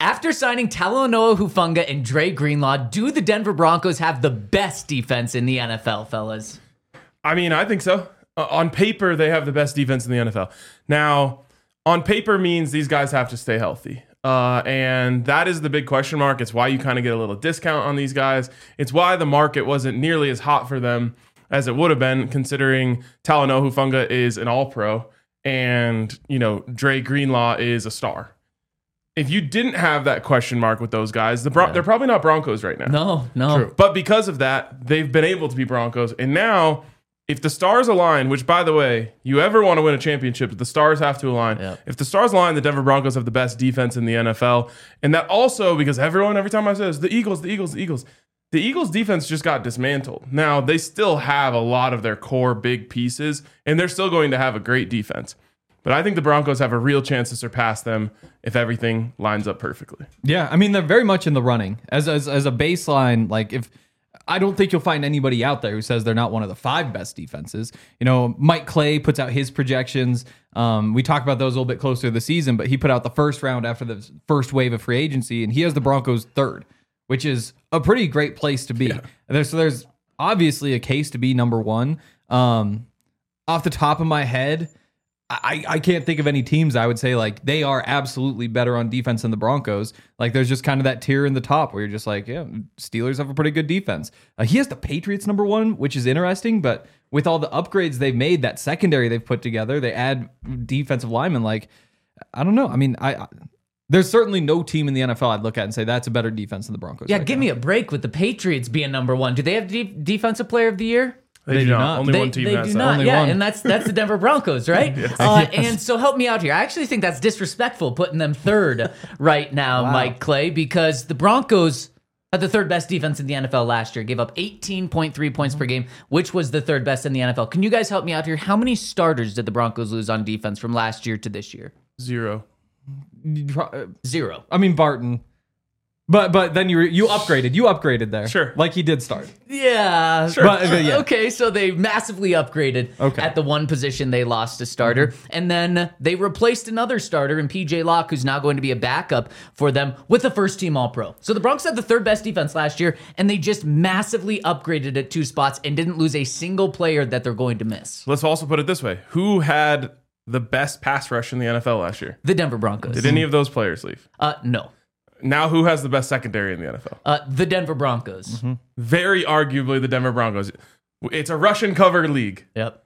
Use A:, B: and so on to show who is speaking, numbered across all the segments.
A: After signing Talanoa Hufanga and Dre Greenlaw, do the Denver Broncos have the best defense in the NFL, fellas?
B: I mean, I think so. On paper, they have the best defense in the NFL. Now, on paper means these guys have to stay healthy. And that is the big question mark. It's why you kind of get a little discount on these guys. It's why the market wasn't nearly as hot for them as it would have been, considering Talanoa Hufanga is an all-pro and, Dre Greenlaw is a star. If you didn't have that question mark with those guys, they're probably not Broncos right now.
A: No.
B: True. But because of that, they've been able to be Broncos. And now, if the stars align, which, by the way, you ever want to win a championship, the stars have to align. Yep. If the stars align, the Denver Broncos have the best defense in the NFL. And that also, because every time I say this, the Eagles. The Eagles' defense just got dismantled. Now, they still have a lot of their core big pieces, and they're still going to have a great defense. But I think the Broncos have a real chance to surpass them if everything lines up perfectly.
C: Yeah, I mean, they're very much in the running. As a baseline, I don't think you'll find anybody out there who says they're not one of the 5 best defenses. Mike Clay puts out his projections. We talk about those a little bit closer to the season, but he put out the first round after the first wave of free agency, and he has the Broncos 3rd, which is a pretty great place to be. Yeah. So there's obviously a case to be number 1. Off the top of my head, I can't think of any teams I would say they are absolutely better on defense than the Broncos. There's just kind of that tier in the top where you're just Steelers have a pretty good defense. He has the Patriots number 1, which is interesting, but with all the upgrades they've made, that secondary they've put together, they add defensive linemen. I don't know. I mean, there's certainly no team in the NFL I'd look at and say that's a better defense than the Broncos.
A: Yeah, give me a break with the Patriots being number 1. Do they have defensive player of the year?
B: They do not. Only one team has that.
A: They do not.
C: Only
A: yeah,
C: one.
A: and that's the Denver Broncos, right?
B: Yes.
A: And so help me out here. I actually think that's disrespectful putting them 3rd right now,
C: Wow.
A: Mike Clay, because the Broncos had the 3rd best defense in the NFL last year, gave up 18.3 points per game, which was the 3rd best in the NFL. Can you guys help me out here? How many starters did the Broncos lose on defense from last year to this year?
B: 0.
A: 0.
C: I mean, Barton. But then you upgraded there.
B: Sure.
C: Like he did start.
A: Yeah.
B: Sure.
C: But, yeah.
A: Okay, so they massively upgraded at the one position they lost a starter. And then they replaced another starter in PJ Locke, who's now going to be a backup for them with a first-team All-Pro. So the Broncos had the 3rd best defense last year, and they just massively upgraded at 2 spots and didn't lose a single player that they're going to miss.
B: Let's also put it this way. Who had the best pass rush in the NFL last year?
A: The Denver Broncos.
B: Did any of those players leave?
A: No.
B: Now, who has the best secondary in the NFL?
A: The Denver Broncos.
B: Very arguably the Denver Broncos. It's a Russian cover league.
A: Yep.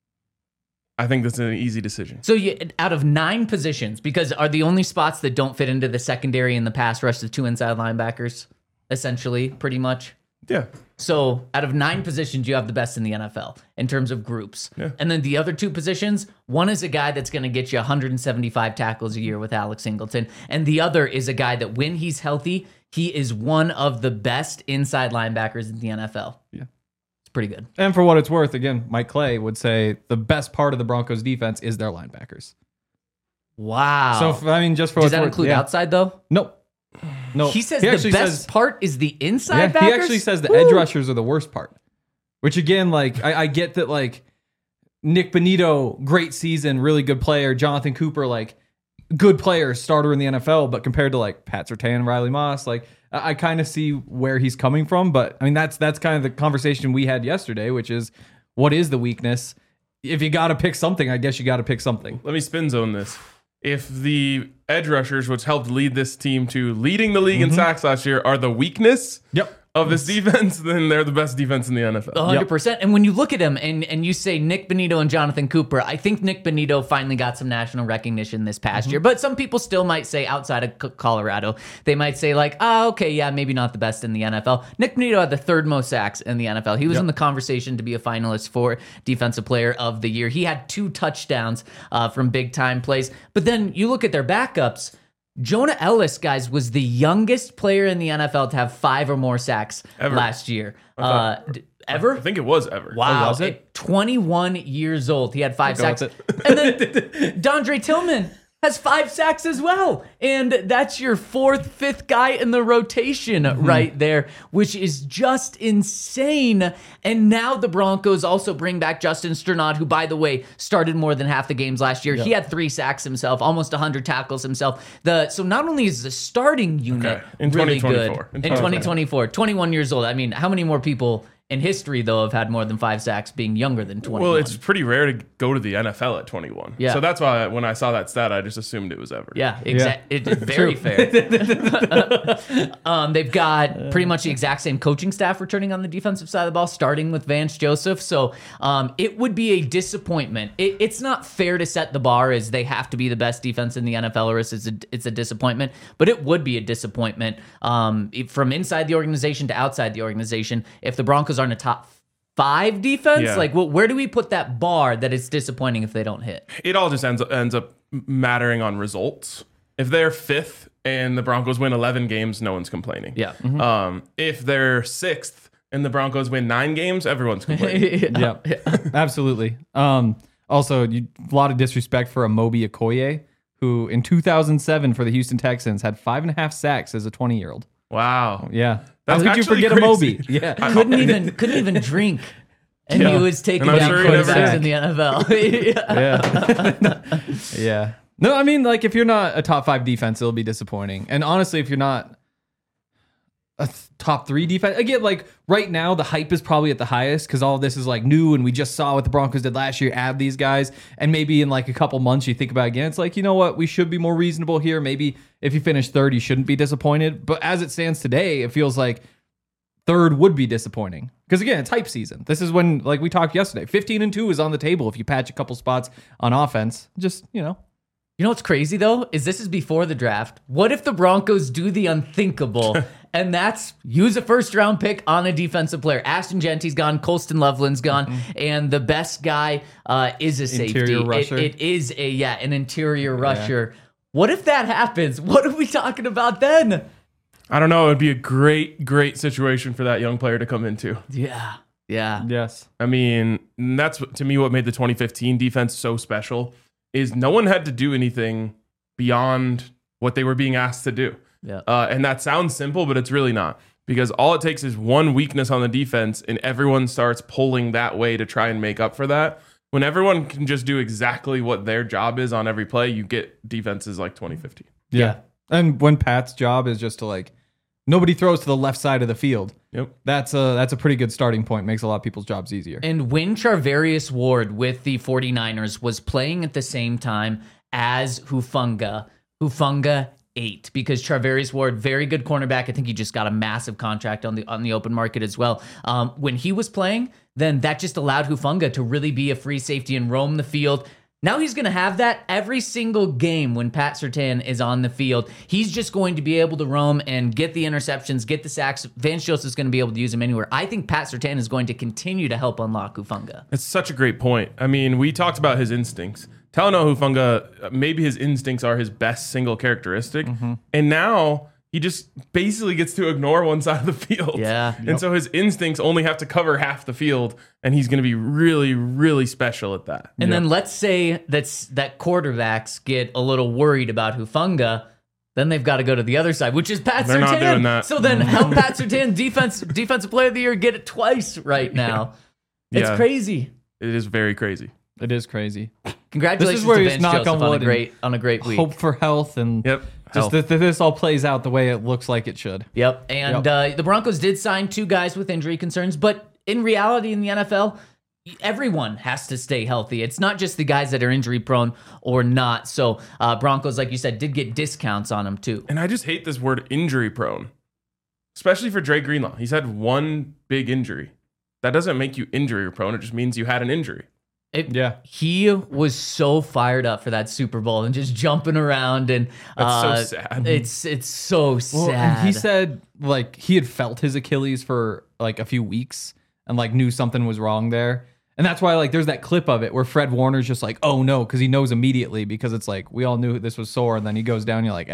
B: I think that's an easy decision.
A: So out of 9 positions, because are the only spots that don't fit into the secondary and the pass rush the 2 inside linebackers, essentially, pretty much?
B: Yeah.
A: So out of 9 positions, you have the best in the NFL in terms of groups.
B: Yeah.
A: And then the other 2 positions, one is a guy that's going to get you 175 tackles a year with Alex Singleton. And the other is a guy that when he's healthy, he is one of the best inside linebackers in the NFL.
C: Yeah.
A: It's pretty good.
C: And for what it's worth, again, Mike Clay would say the best part of the Broncos defense is their linebackers.
A: Wow.
C: So, just for
A: Does
C: what's
A: that
C: worth,
A: include
C: yeah.
A: outside, though?
C: No.
A: He says
C: actually
A: the best part is the inside backers?
C: He actually says the edge rushers are the worst part. Which again, I get that Nick Bonito, great season, really good player. Jonathan Cooper, good player, starter in the NFL, but compared to Pat Surtain, Riley Moss, I kind of see where he's coming from. But I mean, that's kind of the conversation we had yesterday, which is what is the weakness? If you got to pick something, I guess you got to pick something.
B: Let me spin zone this. If the edge rushers, which helped lead this team to leading the league in sacks last year, are the weakness of this defense, then they're the best defense in the NFL.
A: 100%. And when you look at him and you say Nick Bonito and Jonathan Cooper, I think Nick Bonito finally got some national recognition this past year. But some people still might say outside of Colorado, they might say okay, yeah, maybe not the best in the NFL. Nick Bonito had the 3rd most sacks in the NFL. He was in the conversation to be a finalist for Defensive Player of the Year. He had 2 touchdowns from big-time plays. But then you look at their backups. Jonah Ellis, guys, was the youngest player in the NFL to have 5 or more sacks last year. Ever?
B: I think it was ever.
A: Wow.
C: Oh, was it?
A: At 21 years old. He had 5
C: Go
A: sacks.
C: with
A: And then Dondre Tillman has 5 sacks as well. And that's your 4th, 5th guy in the rotation right there, which is just insane. And now the Broncos also bring back Justin Strnad, who, by the way, started more than half the games last year. He had 3 sacks himself, almost 100 tackles himself. So not only is the starting unit
B: in
A: really good
B: 2024.
A: in 2024, 21 years old. I mean, how many more people in history, though, have had more than 5 sacks being younger than 21?
B: Well, it's pretty rare to go to the NFL at 21.
A: Yeah.
B: So that's why when I saw that stat, I just assumed it was ever.
A: Yeah, exactly. It's very fair. They've got pretty much the exact same coaching staff returning on the defensive side of the ball, starting with Vance Joseph. So it would be a disappointment. It's not fair to set the bar as they have to be the best defense in the NFL, or it's a disappointment. But it would be a disappointment from inside the organization to outside the organization if the Broncos aren't a top 5 defense.
B: Yeah.
A: Like, where do we put that bar that it's disappointing if they don't hit?
B: It all just ends up mattering on results. If they're 5th and the Broncos win 11 games, no one's complaining.
A: Yeah.
B: If they're 6th and the Broncos win 9 games, everyone's complaining.
C: Yeah, absolutely. Also, a lot of disrespect for Amobi Okoye, who in 2007 for the Houston Texans had 5.5 sacks as a 20-year-old.
B: Wow.
C: Yeah.
B: That's
C: How could you
B: actually
C: forget
B: crazy.
C: Amobi? Yeah.
A: couldn't even drink. And he was taking
B: And I'm
A: down
B: sure he never
A: quarterbacks
C: did.
A: in the NFL.
C: Yeah. Yeah. No, I mean, like, if you're not a top 5 defense, it'll be disappointing. And honestly, if you're not a top 3 defense, again, like, right now, the hype is probably at the highest because all of this is, like, new, and we just saw what the Broncos did last year, add these guys, and maybe in, like, a couple months, you think about it again, it's like, you know what, we should be more reasonable here. Maybe if you finish 3rd, you shouldn't be disappointed. But as it stands today, it feels like 3rd would be disappointing. Because again, it's hype season. This is when, like we talked yesterday, 15-2 is on the table if you patch a couple spots on offense. Just,
A: You know what's crazy, though, is this is before the draft. What if the Broncos do the unthinkable, and that's use a first-round pick on a defensive player? Ashton Genty's gone, Colston Loveland's gone, and the best guy is a safety.
C: Interior rusher.
A: It is an interior rusher. What if that happens? What are we talking about then?
B: I don't know. It would be a great situation for that young player to come into.
A: Yeah.
C: yes.
B: I mean, that's to me what made the 2015 defense so special is no one had to do anything beyond what they were being asked to do.
A: Yeah.
B: And that sounds simple, but it's really not. Because all it takes is one weakness on the defense and everyone starts pulling that way to try and make up for that. When everyone can just do exactly what their job is on every play, you get defenses like 2015.
C: Yeah. And when Pat's job is just to, like, nobody throws to the left side of the field.
B: Yep.
C: That's a pretty good starting point. Makes a lot of people's jobs easier.
A: And when Charvarius Ward with the 49ers was playing at the same time as Hufanga ate, because Charvarius Ward, very good cornerback. I think he just got a massive contract on the open market as well. When he was playing, then that just allowed Hufanga to really be a free safety and roam the field. Now he's going to have that every single game when Pat Surtain is on the field. He's just going to be able to roam and get the interceptions, get the sacks. Vance Joseph is going to be able to use him anywhere. I think Pat Surtain is going to continue to help unlock Hufanga.
B: It's such a great point. I mean, we talked about his instincts. Talanoa Hufanga, maybe his instincts are his best single characteristic. And now he just basically gets to ignore one side of the field.
A: Yeah.
B: And so his instincts only have to cover half the field, and he's going to be really, really special at that.
A: And then let's say that quarterbacks get a little worried about Hufanga, then they've got to go to the other side, which is Pat
B: They're
A: Surtain.
B: not doing that.
A: So then help Pat Surtain, defensive player of the year, get it twice right now. It's
B: Yeah.
A: crazy.
B: It is very crazy.
C: It is crazy.
A: Congratulations
C: This is where
A: to
C: you
A: Vance
C: knock
A: Joseph
C: on
A: on
C: wood
A: a great week.
C: Hope for health and
B: Yep.
C: just
B: Health.
C: that this all plays out the way it looks like it should.
A: Yep. And the Broncos did sign 2 guys with injury concerns, but in reality in the NFL, everyone has to stay healthy. It's not just the guys that are injury prone or not. So Broncos, like you said, did get discounts on them too.
B: And I just hate this word injury prone, especially for Dre Greenlaw. He's had one big injury. That doesn't make you injury prone. It just means you had an injury.
C: Yeah.
A: He was so fired up for that Super Bowl and just jumping around, and
B: That's so sad.
A: It's so sad.
C: Well, and he said, like, he had felt his Achilles for like a few weeks and like knew something was wrong there. And that's why, like, there's that clip of it where Fred Warner's just like, oh no, because he knows immediately, because it's like, we all knew this was sore, and then he goes down, you're like,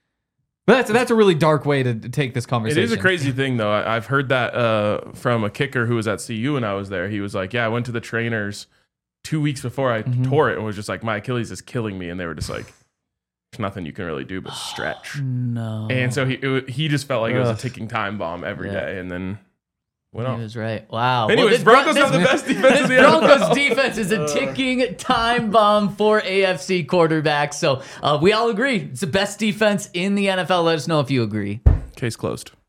C: But that's a really dark way to take this
B: It
C: conversation.
B: is a crazy thing, though. I've heard that from a kicker who was at CU when I was there. He was like, yeah, I went to the trainers 2 weeks before I tore it and was just like, my Achilles is killing me. And they were just like, nothing you can really do but stretch.
A: No.
B: And so he just felt like it was a ticking time bomb every day, and then went
A: He
B: off.
A: was right. Wow.
B: Anyways,
A: this
B: Broncos have the best defense in the
A: Broncos
B: NFL.
A: defense is a ticking time bomb for AFC quarterbacks. So we all agree it's the best defense in the NFL. Let us know if you agree.
B: Case closed.